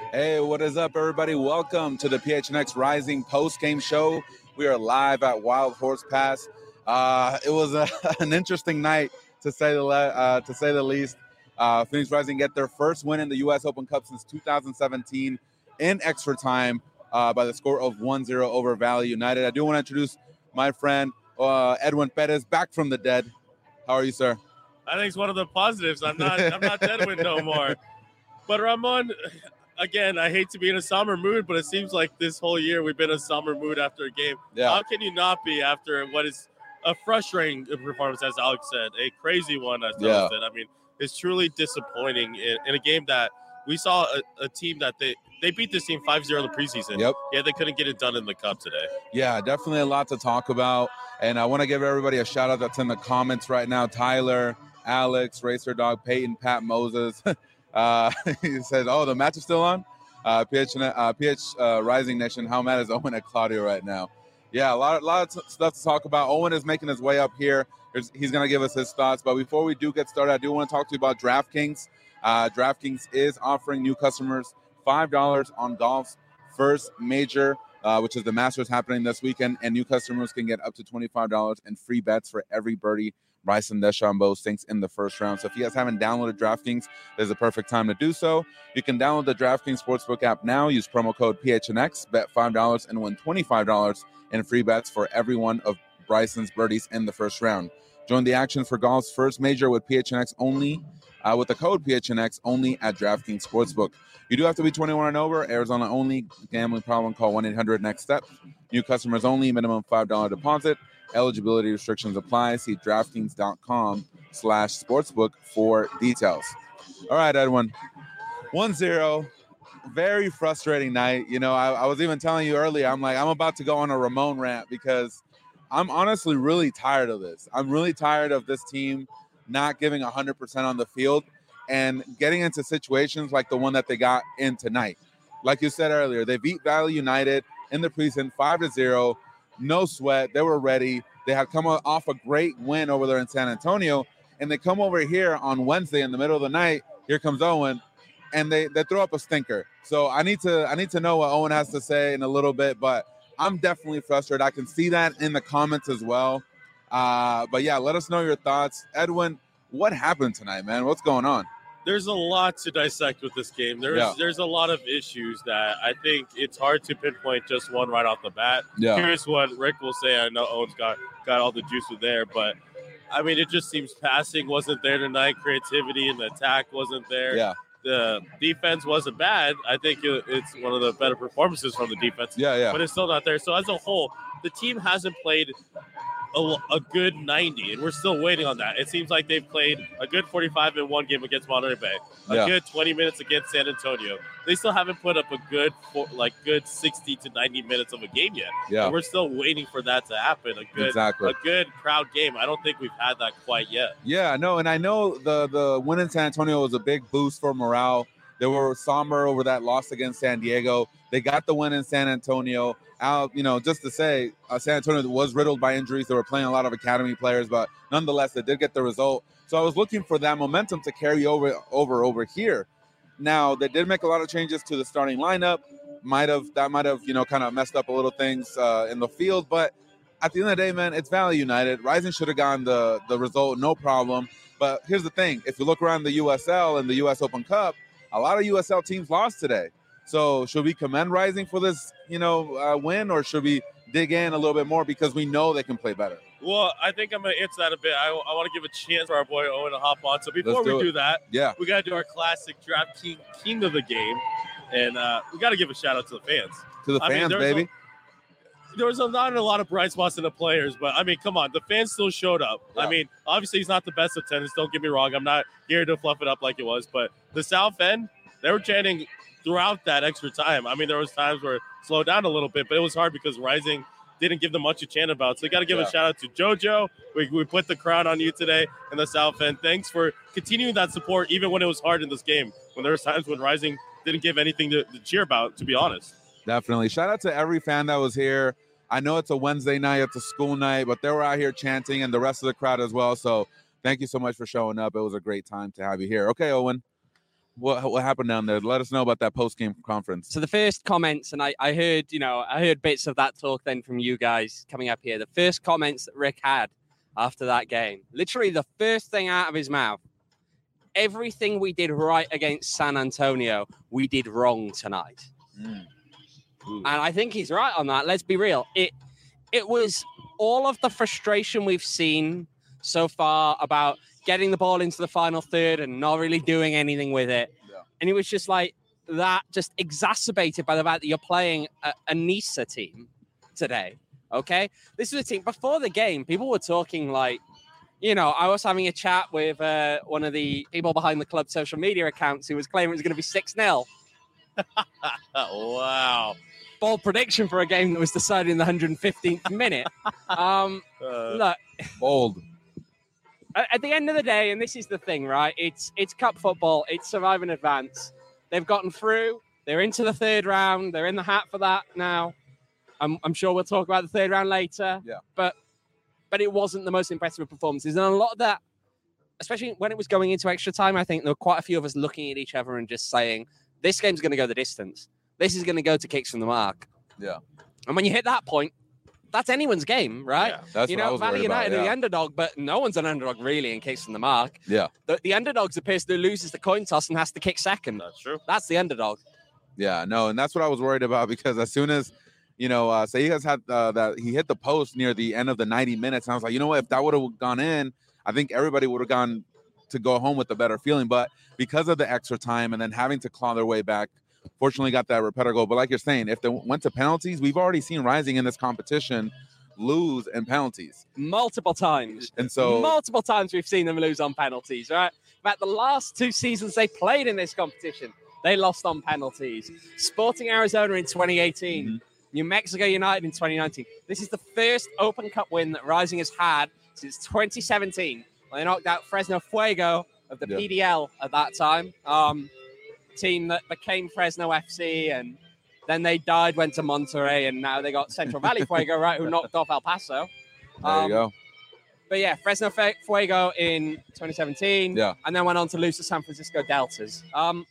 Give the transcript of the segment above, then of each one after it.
Hey, what is up, everybody? Welcome to the PHNX Rising post-game show. We are live at Wild Horse Pass. It was an interesting night, to say the least. Phoenix Rising get their first win in the U.S. Open Cup since 2017 in extra time by the score of 1-0 over Valley United. I do want to introduce my friend Edwin Perez, back from the dead. How are you, sir? I think it's one of the positives. I'm not Edwin no more. But Ramon, again, I hate to be in a somber mood, but it seems like this whole year we've been in a somber mood after a game. Yeah. How can you not be after what is a frustrating performance, as Alex said, a crazy one, as Alex said? I mean, it's truly disappointing in a game that we saw a team that they beat this team 5-0 in the preseason. Yep. Yeah, they couldn't get it done in the Cup today. Yeah, definitely a lot to talk about. And I want to give everybody a shout out that's in the comments right now. Tyler, Alex, Racer Dog, Peyton, Pat Moses. He says, oh, the match is still on? PH Rising Nation, how mad is Owen at Claudio right now? Yeah, a lot of stuff to talk about. Owen is making his way up here. He's going to give us his thoughts. But before we do get started, I do want to talk to you about DraftKings. DraftKings is offering new customers $5 on golf's first major, which is the Masters happening this weekend. And new customers can get up to $25 in free bets for every birdie Bryson DeChambeau sinks in the first round. So if you guys haven't downloaded DraftKings, there's a perfect time to do so. You can download the DraftKings Sportsbook app now. Use promo code PHNX, bet $5 and win $25 in free bets for every one of Bryson's birdies in the first round. Join the action for golf's first major with PHNX only, with the code PHNX only at DraftKings Sportsbook. You do have to be 21 and over. Arizona only. Gambling problem, call 1-800-NEXT-STEP. New customers only. Minimum $5 deposit. Eligibility restrictions apply. See DraftKings.com/sportsbook for details. All right, Edwin. 1-0. Very frustrating night. You know, I was even telling you earlier, I'm about to go on a Ramon rant because I'm honestly really tired of this. I'm really tired of this team not giving 100% on the field and getting into situations like the one that they got in tonight. Like you said earlier, they beat Valley United in the preseason 5-0. No sweat. They were ready. They had come off a great win over there in San Antonio, and they come over here on Wednesday in the middle of the night. Here comes Owen, and they throw up a stinker. So I need to know what Owen has to say in a little bit, but I'm definitely frustrated. I can see that in the comments as well. But yeah, let us know your thoughts. Edwin, what happened tonight, man? What's going on? There's a lot to dissect with this game. There's a lot of issues that I think it's hard to pinpoint just one right off the bat. Yeah. Here's what Rick will say. I know Owen's got all the juice there, but I mean, it just seems passing wasn't there tonight. Creativity in the attack wasn't there. Yeah. The defense wasn't bad. I think it's one of the better performances from the defense. Yeah. But it's still not there. So as a whole, the team hasn't played a good 90, and we're still waiting on that. It seems like they've played a good 45 in one game against Monterey Bay, a good 20 minutes against San Antonio. They still haven't put up a good 60 to 90 minutes of a game yet. Yeah. And we're still waiting for that to happen. A good crowd game. I don't think we've had that quite yet. Yeah, no, and I know the win in San Antonio was a big boost for morale. They were somber over that loss against San Diego. They got the win in San Antonio. Just to say, San Antonio was riddled by injuries. They were playing a lot of academy players, but nonetheless, they did get the result. So I was looking for that momentum to carry over here. Now, they did make a lot of changes to the starting lineup. That might have kind of messed up a little things in the field. But at the end of the day, man, it's Valley United. Rising should have gotten the result, no problem. But here's the thing. If you look around the USL and the U.S. Open Cup, a lot of USL teams lost today. So should we commend Rising for this, win, or should we dig in a little bit more because we know they can play better? Well, I think I'm going to answer that a bit. I want to give a chance for our boy Owen to hop on. So before we do that, we got to do our classic Draft King of the game. And we got to give a shout-out to the fans. To the fans, baby. There was not a lot of bright spots in the players, but, I mean, come on. The fans still showed up. Yeah. I mean, obviously he's not the best of tennis. Don't get me wrong. I'm not here to fluff it up like it was. But the South End, they were chanting throughout that extra time. I mean, there was times where it slowed down a little bit, but it was hard because Rising didn't give them much to chant about. So we got to give a shout out to JoJo. We put the crown on you today in the South End. Thanks for continuing that support, even when it was hard in this game, when there was times when Rising didn't give anything to cheer about, to be honest. Definitely. Shout out to every fan that was here. I know it's a Wednesday night, it's a school night, but they were out here chanting and the rest of the crowd as well. So thank you so much for showing up. It was a great time to have you here. Okay, Owen. What happened down there? Let us know about that post-game conference. So the first comments, and I heard bits of that talk then from you guys coming up here. The first comments that Rick had after that game, literally the first thing out of his mouth, everything we did right against San Antonio, we did wrong tonight. And I think he's right on that. Let's be real. It was all of the frustration we've seen so far about getting the ball into the final third and not really doing anything with it. Yeah. And it was just like that, just exacerbated by the fact that you're playing a NISA team today. Okay? This was a team, before the game, people were talking like, I was having a chat with one of the people behind the club social media accounts who was claiming it was going to be 6-0. Wow. Bold prediction for a game that was decided in the 115th minute. Look. Bold. At the end of the day, and this is the thing, right? It's cup football. It's survive and advance. They've gotten through. They're into the third round. They're in the hat for that now. I'm sure we'll talk about the third round later. Yeah. But it wasn't the most impressive performances. And a lot of that, especially when it was going into extra time, I think there were quite a few of us looking at each other and just saying, this game's going to go the distance. This is going to go to kicks from the mark. Yeah. And when you hit that point, that's anyone's game, right? Yeah, that's what I was Valley United about, are the underdog, but no one's an underdog really in kicks from the mark. Yeah. The underdog's the person who loses the coin toss and has to kick second. That's true. That's the underdog. Yeah, no, and that's what I was worried about because as soon as, Seijas had that he hit the post near the end of the 90 minutes, and I was like, you know what, if that would have gone in, I think everybody would have gone to go home with a better feeling. But because of the extra time and then having to claw their way back, fortunately got that Repeta goal. But like you're saying, if they went to penalties, we've already seen Rising in this competition lose in penalties. Multiple times. And so multiple times we've seen them lose on penalties, right? In fact, the last 2 seasons they played in this competition, they lost on penalties. Sporting Arizona in 2018. Mm-hmm. New Mexico United in 2019. This is the first Open Cup win that Rising has had since 2017. When they knocked out Fresno Fuego of the PDL at that time. Team that became Fresno FC, and then they died, went to Monterrey, and now they got Central Valley Fuego, right, who knocked off El Paso. There you go. But yeah, Fresno Fuego in 2017, and then went on to lose to San Francisco Deltas.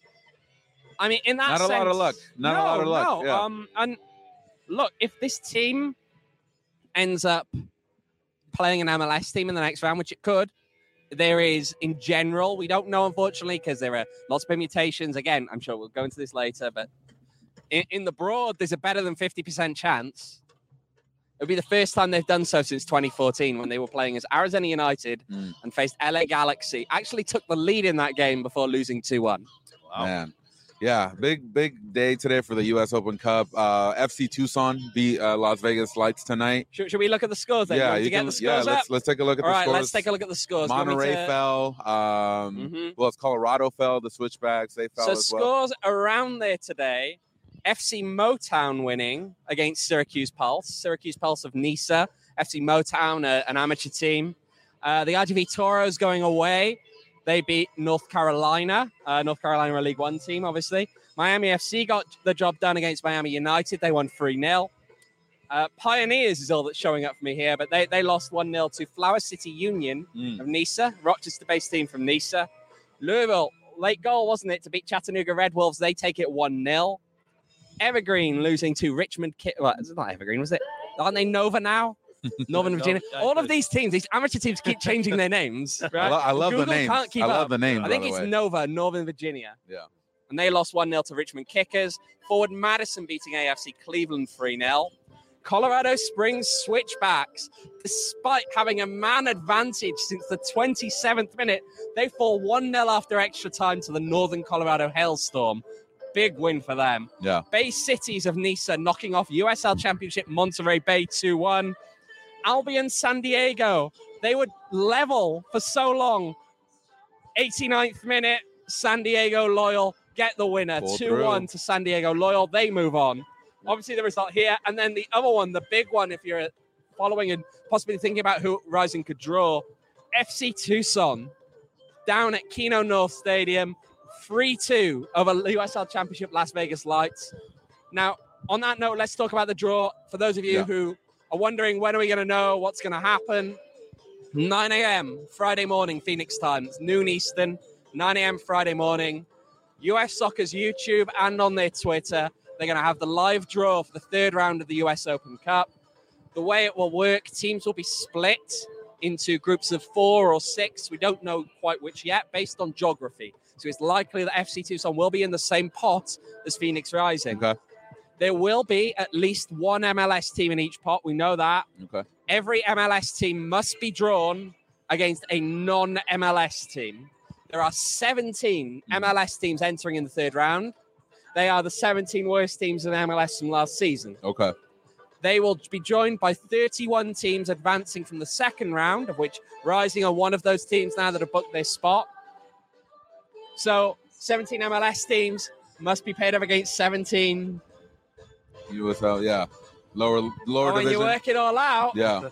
I mean, in that sense, not a lot of luck. Not a lot of luck. Yeah. And look, if this team ends up playing an MLS team in the next round, which it could, there is, in general, we don't know, unfortunately, because there are lots of permutations. Again, I'm sure we'll go into this later, but in the broad, there's a better than 50% chance. It'll be the first time they've done so since 2014 when they were playing as Arizona United and faced LA Galaxy. Actually took the lead in that game before losing 2-1. Wow. Man. Yeah, big day today for the U.S. Open Cup. FC Tucson beat Las Vegas Lights tonight. Should we look at the scores then? Yeah, let's take a look at the scores. All right, let's take a look at the scores. Monterey fell. Well, it's Colorado fell. The Switchbacks, they fell as well. So scores around there today. FC Motown winning against Syracuse Pulse. Syracuse Pulse of NISA. FC Motown, an amateur team. The RGV Toros going away. They beat North Carolina. North Carolina, a League One team, obviously. Miami FC got the job done against Miami United. They won 3-0. Pioneers is all that's showing up for me here, but they lost 1-0 to Flower City Union of NISA, Rochester-based team from NISA. Louisville, late goal, wasn't it, to beat Chattanooga Red Wolves. They take it 1-0. Evergreen losing to Richmond. Well, it's not Evergreen, was it? Aren't they Nova now? Northern Virginia. All of these teams, these amateur teams, keep changing their names. Right? I love the names. I love the names. I think it's Nova, Northern Virginia. Yeah. And they lost 1-0 to Richmond Kickers. Forward Madison beating AFC Cleveland 3-0. Colorado Springs Switchbacks, despite having a man advantage since the 27th minute, they fall 1-0 after extra time to the Northern Colorado Hailstorm. Big win for them. Yeah. Bay Cities of NISA knocking off USL Championship Monterey Bay 2-1. Albion San Diego, they would level for so long. 89th minute, San Diego Loyal get the winner. 2-1 to San Diego Loyal. They move on. Obviously, the result here. And then the other one, the big one, if you're following and possibly thinking about who Rising could draw, FC Tucson down at Keno North Stadium, 3-2 over USL Championship Las Vegas Lights. Now, on that note, let's talk about the draw. For those of you who are wondering when are we going to know what's going to happen, 9 a.m. Friday morning, Phoenix time. It's noon Eastern, 9 a.m. Friday morning. US Soccer's YouTube and on their Twitter. They're going to have the live draw for the third round of the US Open Cup. The way it will work, teams will be split into groups of 4 or 6. We don't know quite which yet, based on geography. So it's likely that FC Tucson will be in the same pot as Phoenix Rising. Okay. There will be at least one MLS team in each pot. We know that. Okay. Every MLS team must be drawn against a non-MLS team. There are 17 MLS teams entering in the third round. They are the 17 worst teams in MLS from last season. Okay. They will be joined by 31 teams advancing from the second round, of which Rising are one of those teams now that have booked their spot. So 17 MLS teams must be paired up against 17. USL, yeah. Lower When division. you work it all out, Yeah.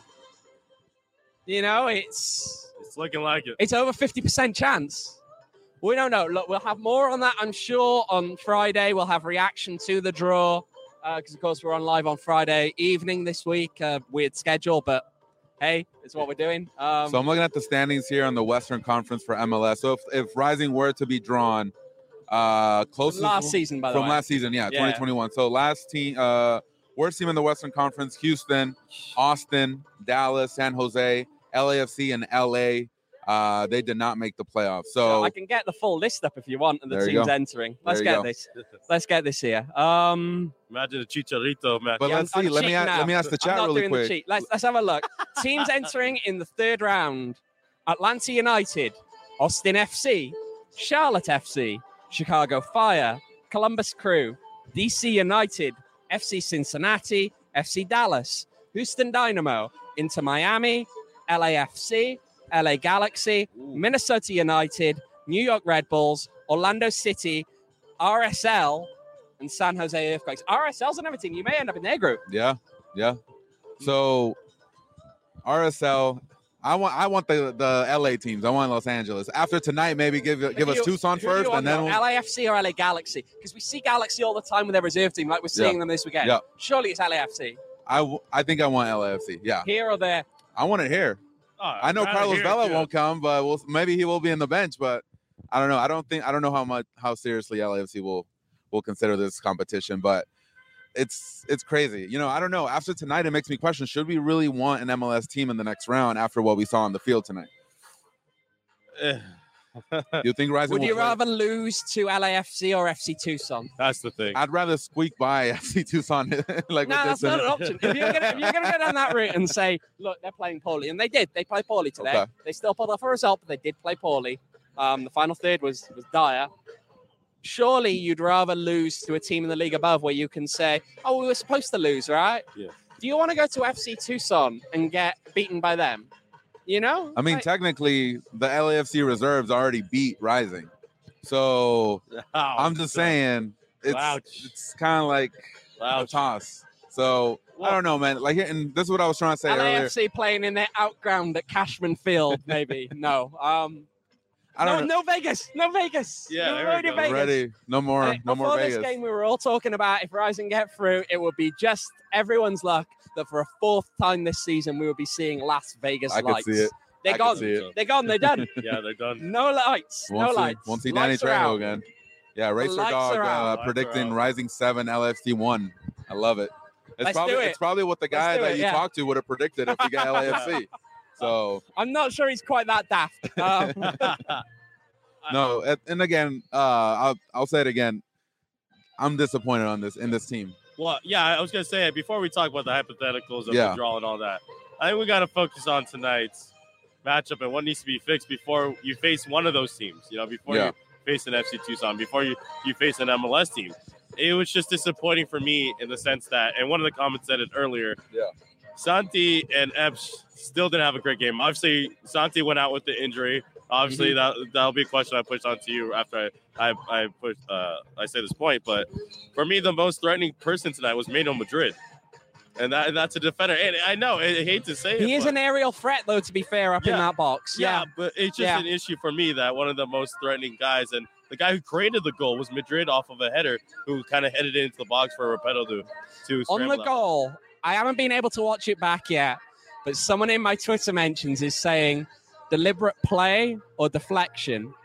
you know, it's looking like it. It's over 50% chance. We don't know. Look, we'll have more on that, I'm sure, on Friday. We'll have reaction to the draw because, of course, we're on live on Friday evening this week. Weird schedule, but hey, it's what we're doing. So I'm looking at the standings here on the Western Conference for MLS. So if Rising were to be drawn closest last season, by the way. From last season, yeah, 2021. So last team, worst team in the Western Conference, Houston, Austin, Dallas, San Jose, LAFC, and LA. They did not make the playoffs. So I can get the full list up if you want and the There you teams go. entering. Let's There you get go. this. Let's get this here. Imagine a Chicharito match. But Yeah, let's I'm see. Let me cheating ask the I'm chat not really doing quick. the cheat. Let's have a look. Teams entering in the third round: Atlanta United, Austin FC, Charlotte FC, Chicago Fire, Columbus Crew, DC United, FC Cincinnati, FC Dallas, Houston Dynamo, Inter Miami, LAFC, LA Galaxy, Minnesota United, New York Red Bulls, Orlando City, RSL, and San Jose Earthquakes. RSL's another team. You may end up in their group. Yeah. So RSL, I want the LA teams. I want Los Angeles. After tonight, maybe give us Tucson Who do you first, want and then though? LAFC or LA Galaxy? Because we see Galaxy all the time with their reserve team, like we're seeing them this weekend. Yeah. Surely it's LAFC. I think I want LAFC. Yeah, Here or there. I want it here. I know Carlos Vela won't come, but maybe he will be in the bench. But I don't know. I don't know how seriously LAFC will consider this competition. But it's crazy. You know, I don't know. After tonight, it makes me question: should we really want an MLS team in the next round after what we saw on the field tonight? You think Rising? Would will you play? rather lose to LAFC or FC Tucson? That's the thing. I'd rather squeak by FC Tucson. Like No, with that's this not an option. If you're gonna go down that route and say, look, they're playing poorly, and they did. They played poorly today. Okay. They still pulled off a result, but they did play poorly. The final third was dire. Surely you'd rather lose to a team in the league above where you can say, oh, we were supposed to lose, right? Yeah. Do you want to go to FC Tucson and get beaten by them? You know? I mean, Like, technically, the LAFC reserves already beat Rising. So I'm just saying it's kind of like a toss. So I don't know, man. Like, and this is what I was trying to say earlier. LAFC playing in their outground at Cashman Field, maybe. No. I don't know. No Vegas. No Vegas. Yeah, No there we road in go. Vegas. Ready? No more Before this Vegas. game, we were all talking about if Rising get through, it would be just everyone's luck that for a fourth time this season, we would be seeing Las Vegas I could lights. see it. They're I gone. could see it. They're gone. They're done. Yeah, they're done. No lights. No lights. Won't see Danny Lights are out. Trejo again. Yeah, Racer lights Dog are out. Lights are predicting out. Rising 7, LFC 1. I love it. Let's do it. It's probably what the guy Let's do that it, you yeah. talked to would have predicted if we got LAFC. So I'm not sure he's quite that daft. no, and again, I'll say it again. I'm disappointed in this team. Well, yeah, I was gonna say before we talk about the hypotheticals of Yeah. the draw and all that. I think we got to focus on tonight's matchup and what needs to be fixed before you face one of those teams. You know, before Yeah. you face an FC Tucson, before you face an MLS team. It was just disappointing for me in the sense that, and one of the comments said it earlier. Yeah. Santi and Epps still didn't have a great game. Obviously, Santi went out with the injury. Obviously, that'll be a question I push on to you after I say this point. But for me, the most threatening person tonight was Mano Madrid, and that's a defender. And I know I hate to say it, he is but- an aerial threat, though, to be fair, up in Yeah. that box. yeah, but it's just Yeah. an issue for me that one of the most threatening guys and the guy who created the goal was Madrid off of a header who kind of headed it into the box for Repeto to On the scramble out. goal, I haven't been able to watch it back yet, but someone in my Twitter mentions is saying deliberate play or deflection.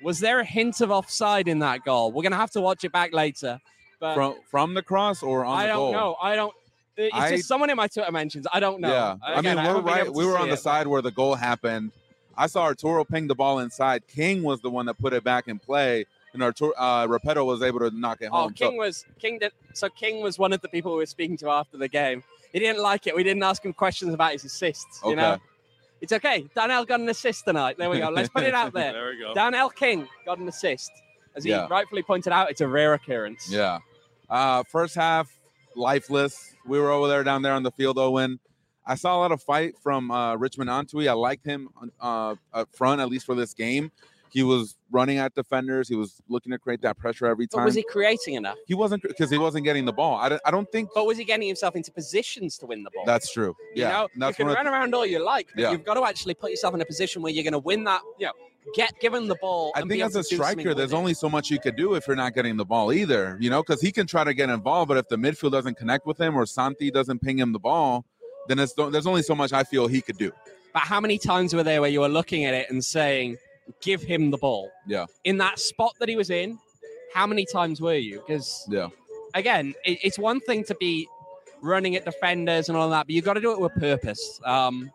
Was there a hint of offside in that goal? We're going to have to watch it back later. But From the cross or on the goal? I don't know. It's just someone in my Twitter mentions. I don't know. Yeah, Again, we're right. We were on the side where the goal happened. I saw Arturo ping the ball inside. King was the one that put it back in play, and Repetto was able to knock it home. King was one of the people we were speaking to after the game. He didn't like it. We didn't ask him questions about his assists. Okay. You know, it's okay. Darnell got an assist tonight. There we go. Let's put it out there. There we go. Darnell King got an assist. As he rightfully pointed out, it's a rare occurrence. Yeah. First half, lifeless. We were over there down there on the field, Owen. I saw a lot of fight from Richmond Antwi. I liked him up front, at least for this game. He was running at defenders. He was looking to create that pressure every time. But was he creating enough? He wasn't, because he wasn't getting the ball. I don't think. But was he getting himself into positions to win the ball? That's true. Yeah. You know, you can run around all you like, but you've got to actually put yourself in a position where you're going to win that. You know, get given the ball. I think as a striker, there's only so much you could do if you're not getting the ball either. You know, because he can try to get involved, but if the midfield doesn't connect with him or Santi doesn't ping him the ball, then there's only so much I feel he could do. But how many times were there where you were looking at it and saying, give him the ball? Yeah. In that spot that he was in, how many times were you? Because, again, it's one thing to be running at defenders and all that, but you've got to do it with purpose. And,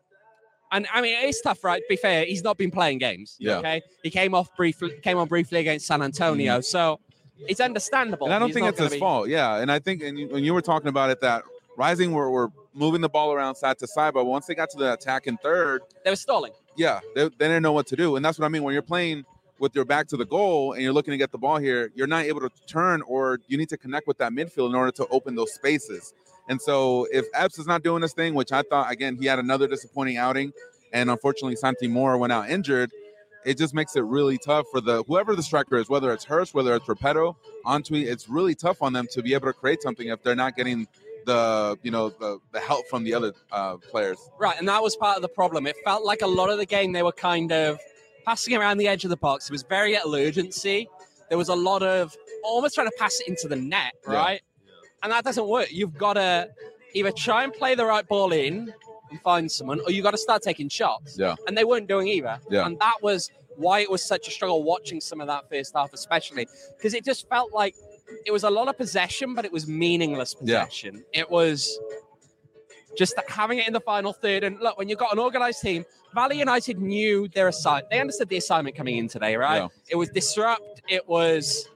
I mean, it's tough, right? To be fair, he's not been playing games. Yeah. Okay? He came on briefly against San Antonio, so it's understandable. And I don't think it's his fault. Yeah, and I think, and when you were talking about it, that Rising were moving the ball around side to side, but once they got to the attack in third, they were stalling. Yeah, they didn't know what to do. And that's what I mean. When you're playing with your back to the goal and you're looking to get the ball here, you're not able to turn, or you need to connect with that midfield in order to open those spaces. And so if Epps is not doing this thing, which I thought, again, he had another disappointing outing, and unfortunately Santi Moore went out injured, it just makes it really tough for whoever the striker is, whether it's Hurst, whether it's Repetto, Antwi, it's really tough on them to be able to create something if they're not getting the help from the other players. Right, and that was part of the problem. It felt like a lot of the game they were kind of passing around the edge of the box. It was very little urgency. There was a lot of almost trying to pass it into the net, right? Yeah. And that doesn't work. You've got to either try and play the right ball in and find someone, or you've got to start taking shots. Yeah. And they weren't doing either. Yeah. And that was why it was such a struggle watching some of that first half, especially, because it just felt like it was a lot of possession, but it was meaningless possession. Yeah. It was just having it in the final third. And look, when you've got an organised team, Valley United knew their assignment. They understood the assignment coming in today, right? Yeah. It was disrupt. It was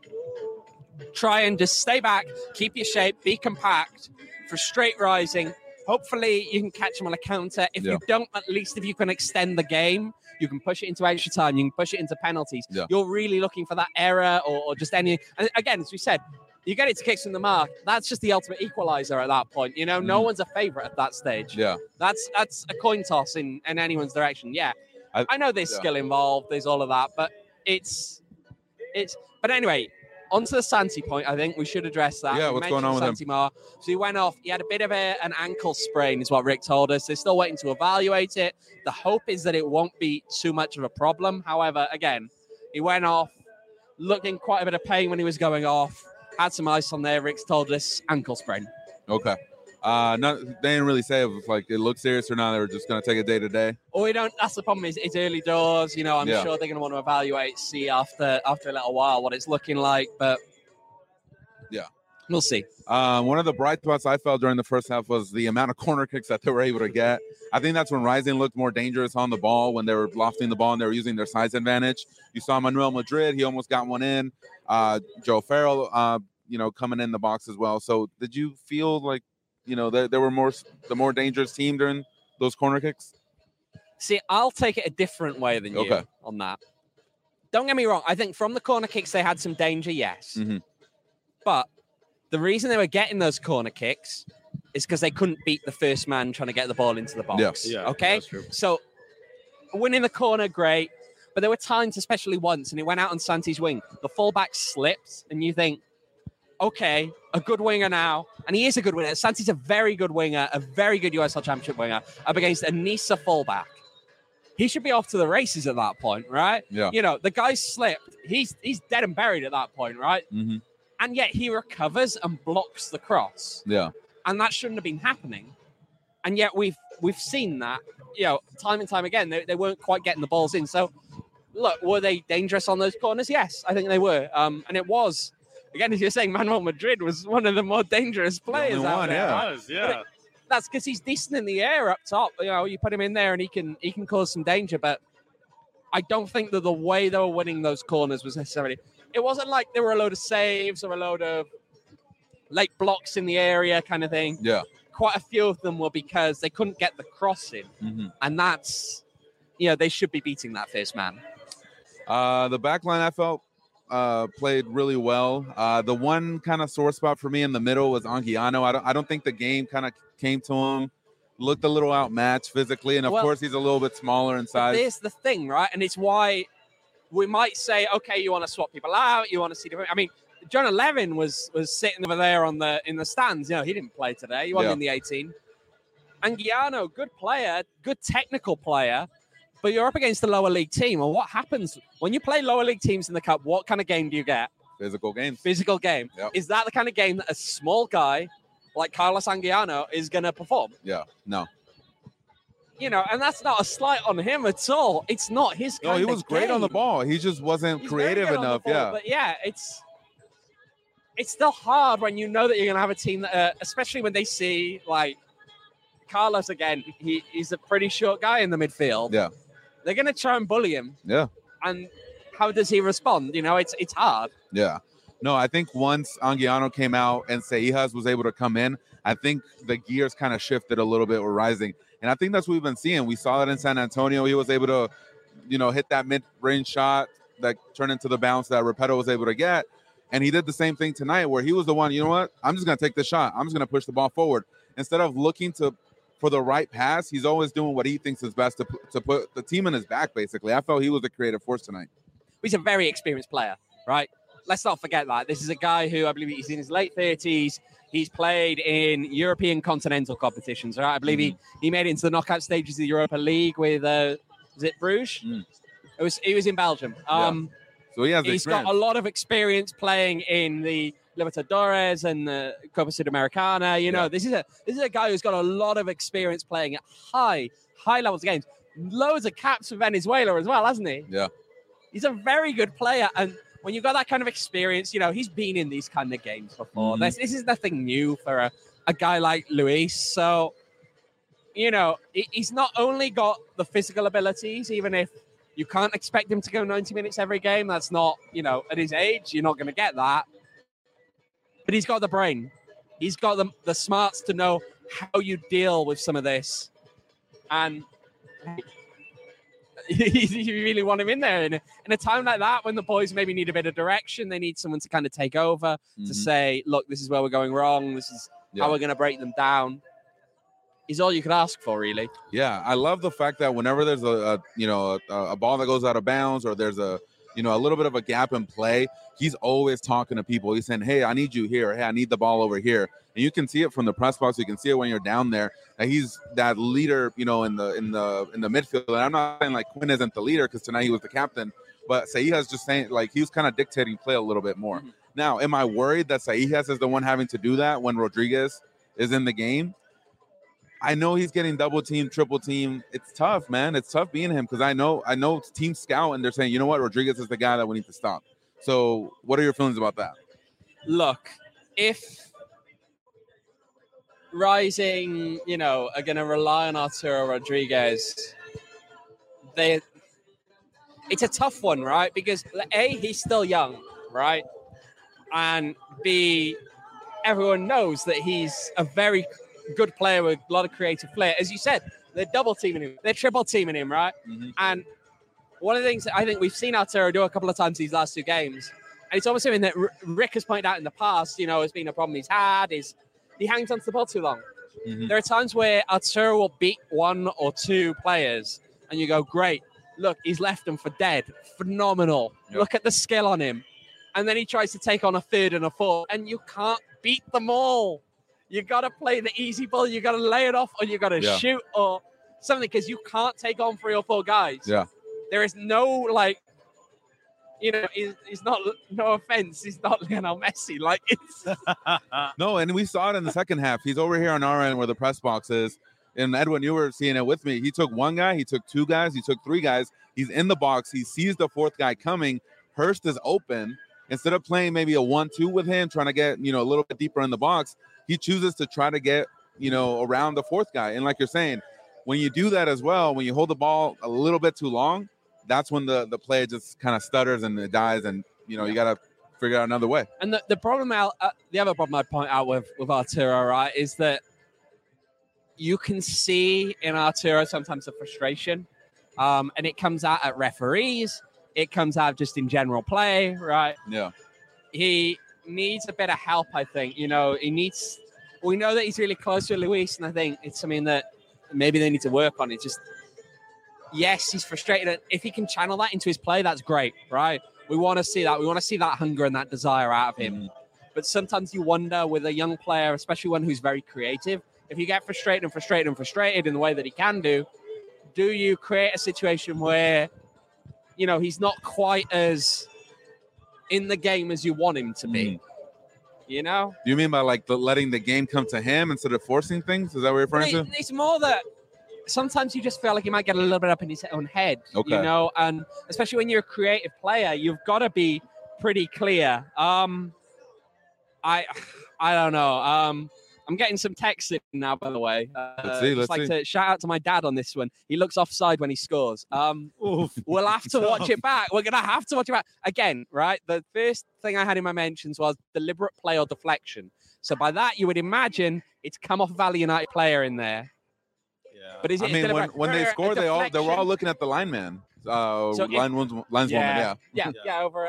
try and just stay back, keep your shape, be compact, frustrate Rising. Hopefully you can catch them on a counter. If you don't, at least if you can extend the game, you can push it into extra time, you can push it into penalties. Yeah. You're really looking for that error or just any. And again, as we said, you get it to kicks from the mark. That's just the ultimate equalizer at that point. You know, no one's a favorite at that stage. Yeah, that's a coin toss in anyone's direction. Yeah, I know there's skill involved, there's all of that, but it's. But anyway, on to the Santi point. I think we should address that. Yeah, what's going on with Santi Mar. So he went off. He had a bit of an ankle sprain, is what Rick told us. They're still waiting to evaluate it. The hope is that it won't be too much of a problem. However, again, he went off, looking quite a bit of pain when he was going off. Had some ice on there. Rick's told us ankle sprain. Okay. They didn't really say if it looked serious or not. They were just going to take it day to day. Or we don't. That's the problem. It's early doors. You know, I'm sure they're going to want to evaluate, see after a little while what it's looking like. But yeah, we'll see. One of the bright spots I felt during the first half was the amount of corner kicks that they were able to get. I think that's when Rising looked more dangerous on the ball, when they were lofting the ball and they were using their size advantage. You saw Manuel Madrid; he almost got one in. Joe Farrell, coming in the box as well. So, did you feel like they were the more dangerous team during those corner kicks? See, I'll take it a different way than you on that. Don't get me wrong. I think from the corner kicks, they had some danger, yes. Mm-hmm. But the reason they were getting those corner kicks is because they couldn't beat the first man trying to get the ball into the box. Yes. Yeah, okay? That's true. So winning the corner, great. But there were times, especially once, and it went out on Santi's wing. The fullback slipped, and you think, okay, a good winger now. And he is a good winger. Santi's a very good winger, a very good USL Championship winger, up against a Nisa fullback. He should be off to the races at that point, right? Yeah. The guy slipped. He's dead and buried at that point, right? Mm-hmm. And yet he recovers and blocks the cross. Yeah. And that shouldn't have been happening. And yet we've seen that, time and time again. They weren't quite getting the balls in. So look, were they dangerous on those corners? Yes, I think they were. And it was, again, as you're saying, Manuel Madrid was one of the more dangerous players only out one, there. yeah. It was, yeah. That's because he's decent in the air up top. You know, you put him in there and he can cause some danger. But I don't think that the way they were winning those corners was necessarily. It wasn't like there were a load of saves or a load of late blocks in the area kind of thing. Yeah. Quite a few of them were because they couldn't get the cross in, and that's, you know, they should be beating that first man. The back line, I felt, played really well. The one kind of sore spot for me in the middle was Anguiano. I don't think the game kind of came to him. Looked a little outmatched physically, and of course he's a little bit smaller in size. There's the thing, right? And it's why we might say, okay, you want to swap people out, you want to see different. I mean, Jonah Levin was sitting over there in the stands. You know, he didn't play today. He wasn't in the 18. Anguiano, good player, good technical player, but you're up against a lower league team. And what happens when you play lower league teams in the cup? What kind of game do you get? Physical game. Physical game. Yep. Is that the kind of game that a small guy like Carlos Anguiano is going to perform? Yeah. No. You know, and that's not a slight on him at all. It's not his kind No, he of was great game. on the ball. He just wasn't He's creative very good on the enough. ball, Yeah. But yeah, it's still hard when you know that you're going to have a team that, especially when they see like Carlos again. He's a pretty short guy in the midfield. Yeah. They're going to try and bully him. Yeah. And how does he respond? You know, it's hard. Yeah. No, I think once Anguiano came out and Seijas was able to come in, I think the gears kind of shifted a little bit with Rising. And I think that's what we've been seeing. We saw it in San Antonio. He was able to, you know, hit that mid-range shot that turned into the bounce that Repetto was able to get. And he did the same thing tonight where he was the one, you know what? I'm just going to take the shot. I'm just going to push the ball forward. Instead of looking for the right pass, he's always doing what he thinks is best to put the team in his back, basically. I felt he was a creative force tonight. He's a very experienced player, right? Let's not forget that. This is a guy who I believe he's in his late 30s. He's played in European continental competitions, right? I believe he made it into the knockout stages of the Europa League with, is it Bruges? He was in Belgium. So he has He's experience. got a lot of experience playing in the Libertadores and the Copa Sudamericana. You know, this is a guy who's got a lot of experience playing at high levels of games. Loads of caps for Venezuela as well, hasn't he? Yeah. He's a very good player, and when you've got that kind of experience, you know, he's been in these kind of games before. This is nothing new for a guy like Luis. So, you know, he's not only got the physical abilities, even if you can't expect him to go 90 minutes every game. That's not, you know, at his age, you're not going to get that. But he's got the brain. He's got the smarts to know how you deal with some of this. And you really want him in there in a time like that when the boys maybe need a bit of direction. They need someone to kind of take over to say, look, this is where we're going wrong. This is how we're going to break them down. Is all you could ask for, really. Yeah, I love the fact that whenever there's a ball that goes out of bounds or there's a little bit of a gap in play, he's always talking to people. He's saying, hey, I need you here. Hey, I need the ball over here. And you can see it from the press box. You can see it when you're down there. That he's that leader, you know, in the midfield. And I'm not saying like Quinn isn't the leader because tonight he was the captain, but Seijas just saying like he was kind of dictating play a little bit more. Now, am I worried that Seijas is the one having to do that when Rodriguez is in the game? I know he's getting double team, triple team. It's tough, man. It's tough being him because I know team scout and they're saying, you know what, Rodriguez is the guy that we need to stop. So what are your feelings about that? Look, if Rising, you know, are going to rely on Arturo Rodriguez, it's a tough one, right? Because A, he's still young, right? And B, everyone knows that he's a very good player with a lot of creative flair. As you said, they're double teaming him. They're triple teaming him, right? And one of the things that I think we've seen Arturo do a couple of times these last two games, and it's almost something that Rick has pointed out in the past, you know, has been a problem he's had, is he hangs onto the ball too long. There are times where Arturo will beat one or two players, and you go, great, look, he's left them for dead. Phenomenal. Yep. Look at the skill on him. And then he tries to take on a third and a fourth, and you can't beat them all. You got to play the easy ball. You got to lay it off, or you got to shoot or something, because you can't take on 3 or 4 guys. Yeah. There is no, like, you know, he's not, no offense, he's not Lionel Messi. Like, it's... No, and we saw it in the second half. He's over here on our end where the press box is. And Edwin, you were seeing it with me. He took one guy, he took two guys, he took three guys. He's in the box. He sees the fourth guy coming. Hurst is open. Instead of playing maybe a 1-2 with him, trying to get, a little bit deeper in the box, he chooses to try to get, around the fourth guy. And like you're saying, when you do that as well, when you hold the ball a little bit too long, that's when the play just kind of stutters and it dies. And, you got to figure out another way. And the problem the other problem I'd point out with Arturo, right, is that you can see in Arturo sometimes the frustration, and it comes out at referees. It comes out just in general play, right? Yeah. He needs a bit of help, I think. We know that he's really close to Luis, and I think it's something that maybe they need to work on. It's just, yes, he's frustrated. If he can channel that into his play, that's great, right? We want to see that. We want to see that hunger and that desire out of him. Mm-hmm. But sometimes you wonder with a young player, especially one who's very creative, if you get frustrated in the way that he can do you create a situation where, he's not quite as in the game as you want him to be? Do you mean by like letting the game come to him instead of forcing things? Is that what you're referring to? It's more that sometimes you just feel like you might get a little bit up in his own head, and especially when you're a creative player, you've got to be pretty clear. I don't know. I'm getting some texts in now, by the way. Let's see. To shout out to my dad on this one. He looks offside when he scores. We'll have to watch it back. We're going to have to watch it back. Again, right? The first thing I had in my mentions was deliberate play or deflection. So by that, you would imagine it's come off a Valley United player in there. Yeah. But is it when they scored, they were all looking at the lineman. Lineswoman. Over.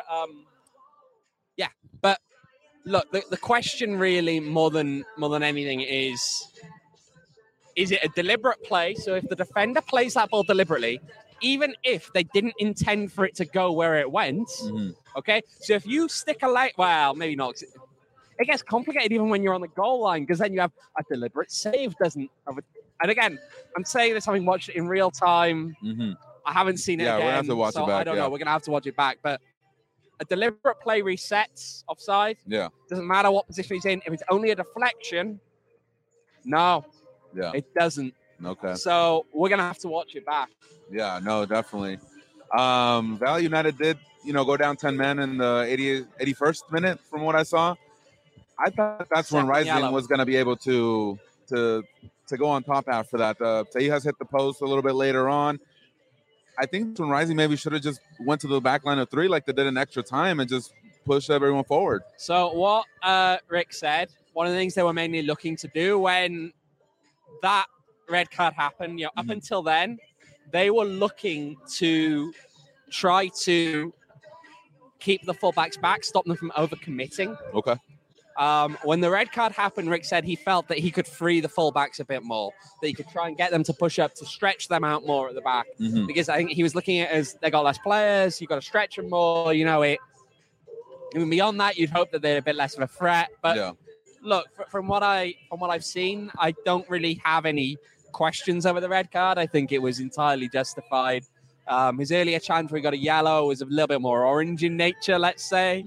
But look, the question really more than anything is it a deliberate play? So if the defender plays that ball deliberately, even if they didn't intend for it to go where it went, okay? So if you stick a leg, well, maybe not. It gets complicated even when you're on the goal line because then you have a deliberate save, and again, I'm saying this having watched it in real time. I haven't seen it again. We're going to have to watch it back. I don't know. We're going to have to watch it back, but a deliberate play resets offside. Yeah. Doesn't matter what position he's in. If it's only a deflection, no. Yeah. It doesn't. Okay. So we're going to have to watch it back. Yeah, no, definitely. Valley United did, go down 10 men in the 81st minute from what I saw. I thought that's when Rising was going to be able to go on top after that. Tejas hit the post a little bit later on. I think when Rising maybe should have just went to the back line of three like they did in extra time and just pushed everyone forward. So what Rick said, one of the things they were mainly looking to do when that red card happened, up until then, they were looking to try to keep the fullbacks back, stop them from overcommitting. Okay. When the red card happened, Rick said he felt that he could free the fullbacks a bit more, that he could try and get them to push up, to stretch them out more at the back. Because I think he was looking at it as they got less players, you got to stretch them more. Even beyond that, you'd hope that they're a bit less of a threat. But look, from what I've seen, I don't really have any questions over the red card. I think it was entirely justified. His earlier chance where he got a yellow was a little bit more orange in nature, let's say.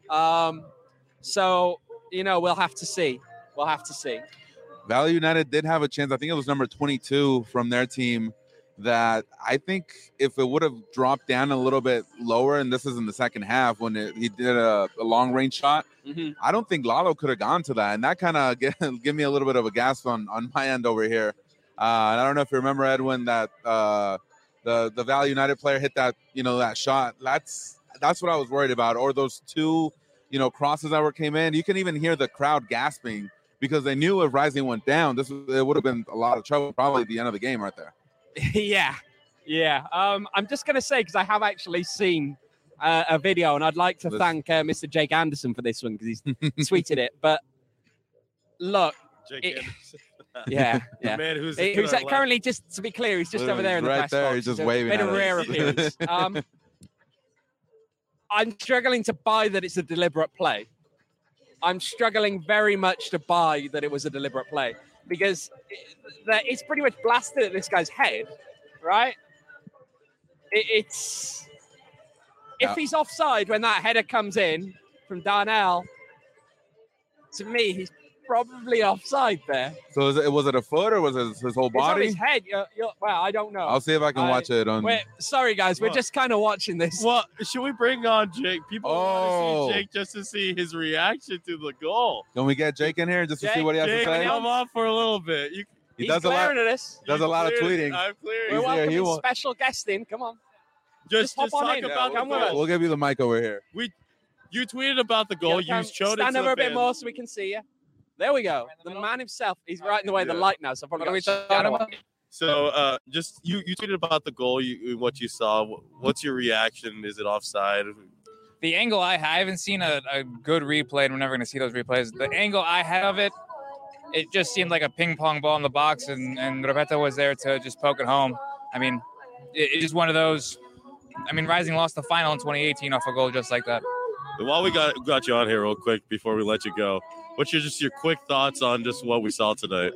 So, we'll have to see. Valley United did have a chance. I think it was number 22 from their team that I think if it would have dropped down a little bit lower, and this is in the second half when he did a long-range shot, I don't think Lalo could have gone to that. And that kind of give me a little bit of a gasp on my end over here. And I don't know if you remember, Edwin, that the Valley United player hit that, that shot. That's what I was worried about. Or those two crosses that came in. You can even hear the crowd gasping because they knew if Rising went down, it would have been a lot of trouble, probably at the end of the game right there. Yeah. I'm just going to say, because I have actually seen a video, and I'd like to thank Mr. Jake Anderson for this one because he's tweeted it. But look, Anderson. Yeah. The man who's currently, just to be clear, he's just over there in the press box. He's just waving. Been a rare appearance. I'm struggling to buy that it's a deliberate play. I'm struggling very much to buy that it was a deliberate play because it's pretty much blasted at this guy's head, right? If he's offside when that header comes in from Darnell, to me, probably offside there. So was it a foot or was it his whole It's on body? his head. Well, I don't know. I'll see if I can watch it on. Wait, sorry guys, we're What? just kind of watching this. Well, should we bring on Jake? People want Oh. to see Jake just to see his reaction to the goal. Can we get Jake in here just to see Jake, what he has Jake, to say? come on for a little bit. He He's does a lot. glaring at us. Does a lot of tweeting. I'm clearing. We're He's here, welcoming he won't- special guest in. Come on. Just hop on talk in. about the come with us. goal. We'll give you the mic over here. You tweeted about the goal. Yeah, You showed it stand to over the a bit fans. more so we can see you. There we go. The man himself. He's right in the way of the Yeah. light now. So I've probably What are we got talking shadow about? on. So, just you tweeted about the goal. What you saw. What's your reaction? Is it offside? The angle I haven't seen a good replay, and we're never going to see those replays. The angle I had of it, it just seemed like a ping pong ball in the box, and Roberto was there to just poke it home. I mean, it's just one of those. I mean, Rising lost the final in 2018 off a goal just like that. While we got you on here real quick before we let you go, what's your quick thoughts on just what we saw tonight?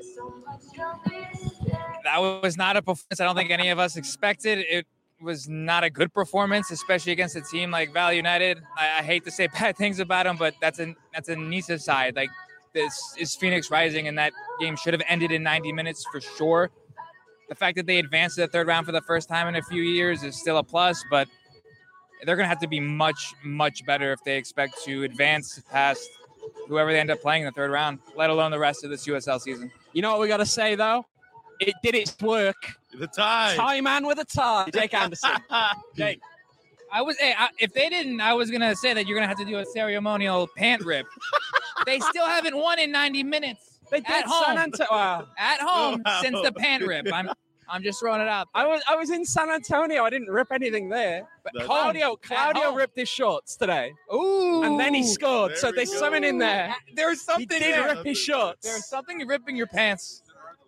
That was not a performance I don't think any of us expected. It was not a good performance, especially against a team like Valley United. I hate to say bad things about them, but that's a Nisa side. Like, this is Phoenix Rising, and that game should have ended in 90 minutes for sure. The fact that they advanced to the third round for the first time in a few years is still a plus, but they're going to have to be much, much better if they expect to advance past whoever they end up playing in the third round, let alone the rest of this USL season. You know what we got to say, though? It did its work. The tie. Tie man with a tie. Jake Anderson. Jake, if they didn't, I was gonna say that you're gonna have to do a ceremonial pant rip. They still haven't won in 90 minutes. They did At home. San Antonio. Wow. At home Wow. since the pant rip. I'm just throwing it out there. I was in San Antonio. I didn't rip anything there. But That's- Claudio At home. ripped his shorts today. Ooh. And then he scored. There So we there's go. something in there. There's He something did there. rip his shorts. There's something in ripping your pants.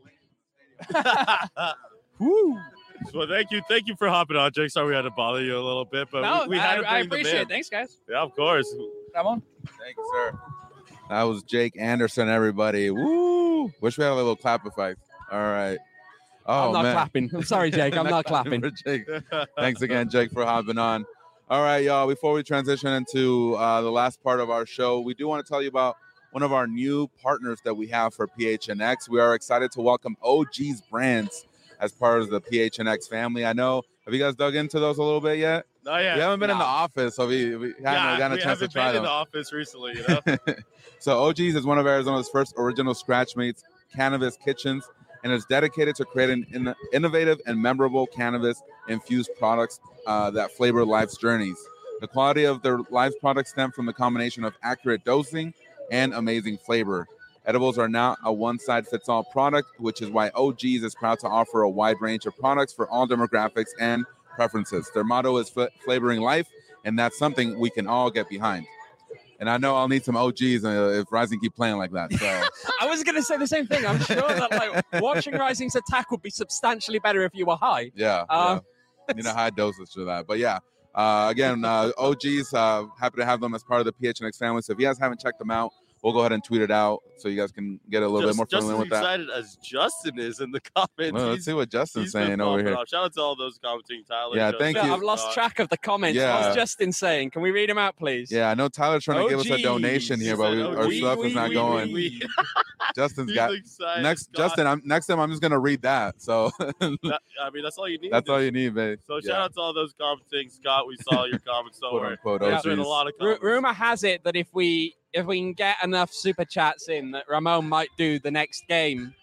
Woo. Well, thank you for hopping on, Jake. Sorry we had to bother you a little bit, but No, we had to I bring them appreciate in. it. Thanks, guys. Yeah, of course. Ramon. Thank you, sir. That was Jake Anderson, everybody. Woo! Wish we had a little clap effect. All right. Oh, I'm not man. clapping. I'm sorry, Jake. I'm not clapping. For Jake. Thanks again, Jake, for hopping on. All right, y'all. Before we transition into the last part of our show, we do want to tell you about one of our new partners that we have for PHNX. We are excited to welcome OG's Brands as part of the PHNX family. I know. Have you guys dug into those a little bit yet? Oh, yeah. We haven't been in the No. office, so we haven't gotten a we chance to haven't try been in them. the office recently, you know? So OG's is one of Arizona's first original Scratchmates cannabis kitchens, and is dedicated to creating innovative and memorable cannabis-infused products that flavor life's journeys. The quality of their live products stem from the combination of accurate dosing and amazing flavor. Edibles are now a one-size-fits-all product, which is why OG's is proud to offer a wide range of products for all demographics and preferences. Their motto is flavoring life, and that's something we can all get behind. And I know I'll need some OGs if Rising keep playing like that. So I was going to say the same thing. I'm sure that like watching Rising's attack would be substantially better if you were high. yeah, need a high dosage for that. But yeah, again, OGs, happy to have them as part of the PHNX family. So if you guys haven't checked them out, we'll go ahead and tweet it out so you guys can get a little bit more Just familiar as with that. excited as Justin is in the comments. Well, let's see what Justin's He's been saying over popping here. off. Shout out to all those commenting, Tyler. Yeah, Justin, thank you. I've lost Scott. track of the comments. Yeah. What's Justin saying? Can we read him out, please? Yeah, I know Tyler's trying to give us a OGs. donation here, but our stuff is not going. Justin's He's got excited. next. Scott. Justin, next time I'm just gonna read that. So I mean, that's all you need. that's all you need, babe. So shout out to all those commenting, Scott. We saw your comments. Don't Quote worry. unquote There's been a OGs. lot of comments. Rumor has it that if we can get enough super chats in, that Ramon might do the next game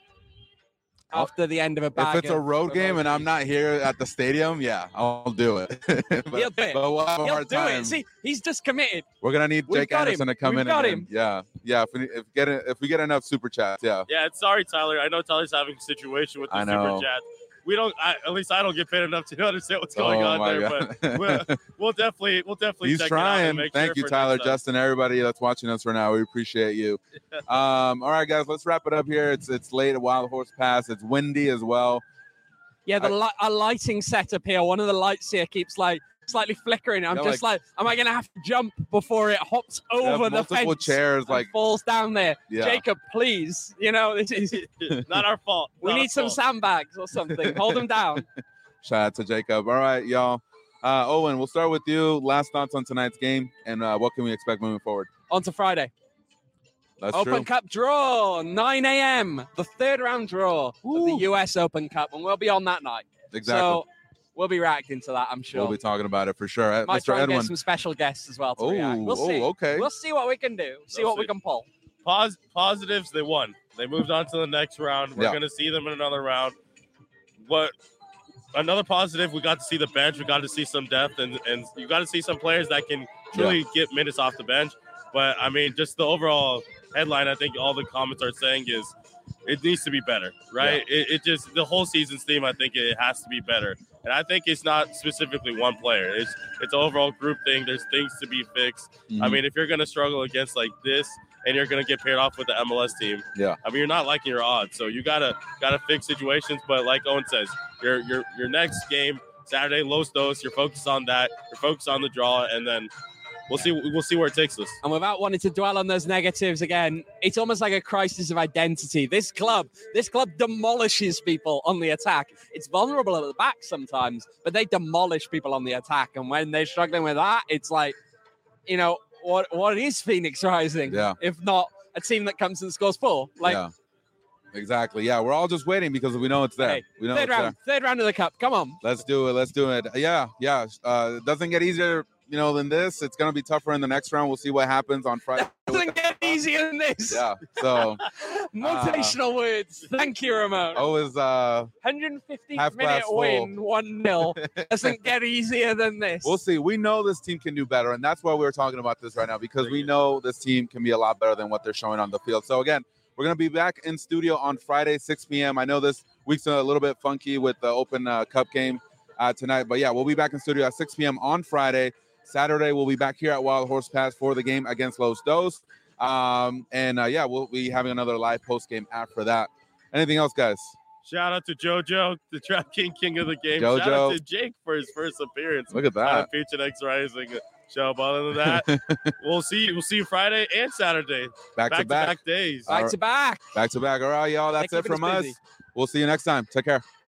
after the end of a bag. If it's a of- road of game and I'm OGs. not here at the stadium, yeah, I'll do it. but, He'll do it. but we'll have a He'll hard do time. it. See, he's just committed. We're gonna need We've Jake got Anderson him. to come We've in. got again. him. Yeah. If we get enough super chats, yeah. Yeah, it's sorry, Tyler. I know Tyler's having a situation with the I know. super chat. We don't. At least I don't get paid enough to understand what's going Oh, on my there. God. But we'll definitely He's check it out and trying. make Thank sure you, for Tyler, next time. Justin, everybody that's watching us right now. We appreciate you. All right, guys, let's wrap it up here. It's late at Wild Horse Pass. It's windy as well. Yeah, a lighting setup here. One of the lights here keeps like slightly flickering. I'm Yeah, just like, am I gonna have to jump before it hops We have over the multiple fence chairs, and like falls down there? yeah. Jacob, please. You know, this is Not our fault. we Not need our some fault. sandbags or something. Hold them down. Shout out to Jacob. All right, y'all. Owen, we'll start with you. Last thoughts on tonight's game, and what can we expect moving forward? On to Friday. That's Open true. Cup draw, 9 a.m. The third round draw of the U.S. Open Cup, and we'll be on that night. Exactly. So we'll be reacting to that, I'm sure. We'll be talking about it for sure. Might Mr. try and Edwin. get some special guests as well to react. We'll see. Okay. We'll see what we can do. See what we can pull. Positives, they won. They moved on to the next round. We're going to see them in another round. Another positive, we got to see the bench. We got to see some depth, and you got to see some players that can truly get minutes off the bench. But, I mean, just the overall headline, I think all the comments are saying is it needs to be better, right? Yeah. It just, the whole season's theme, I think it has to be better. And I think it's not specifically one player. It's an overall group thing. There's things to be fixed. Mhm. I mean, if you're going to struggle against like this and you're going to get paired off with the MLS team, I mean, you're not liking your odds. So you gotta fix situations. But like Owen says, your next game, Saturday, Los Dos, you're focused on that. You're focused on the draw, and then we'll see where it takes us. And without wanting to dwell on those negatives again, it's almost like a crisis of identity. This club demolishes people on the attack. It's vulnerable at the back sometimes, but they demolish people on the attack. And when they're struggling with that, it's like, you know, what is Phoenix Rising? Yeah. If not a team that comes and scores 4? Like, yeah. Exactly. Yeah, we're all just waiting because we know it's there. Hey, We know third round of the cup. Come on. Let's do it. Yeah. It doesn't get easier, than this. It's gonna be tougher in the next round. We'll see what happens on Friday. Doesn't get easier than this. Yeah. So motivational words. Thank you, Ramon. Always 150 half minute glass full. win, 1-0. Doesn't get easier than this. We'll see. We know this team can do better, and that's why we're talking about this right now, because we know this team can be a lot better than what they're showing on the field. So again, we're going to be back in studio on Friday, 6 p.m. I know this week's a little bit funky with the Open Cup game tonight, but yeah, we'll be back in studio at 6 p.m. on Friday. Saturday, we'll be back here at Wild Horse Pass for the game against Los Dos. We'll be having another live post game after that. Anything else, guys? Shout out to JoJo, the DraftKings King of the game. JoJo. Shout out to Jake for his first appearance. Look at that. On Future X Rising show. But other than that, we'll see you Friday and Saturday. Back to back days. Back to back. Back to back. All right, y'all. That's They're it from keeping us us. busy. We'll see you next time. Take care.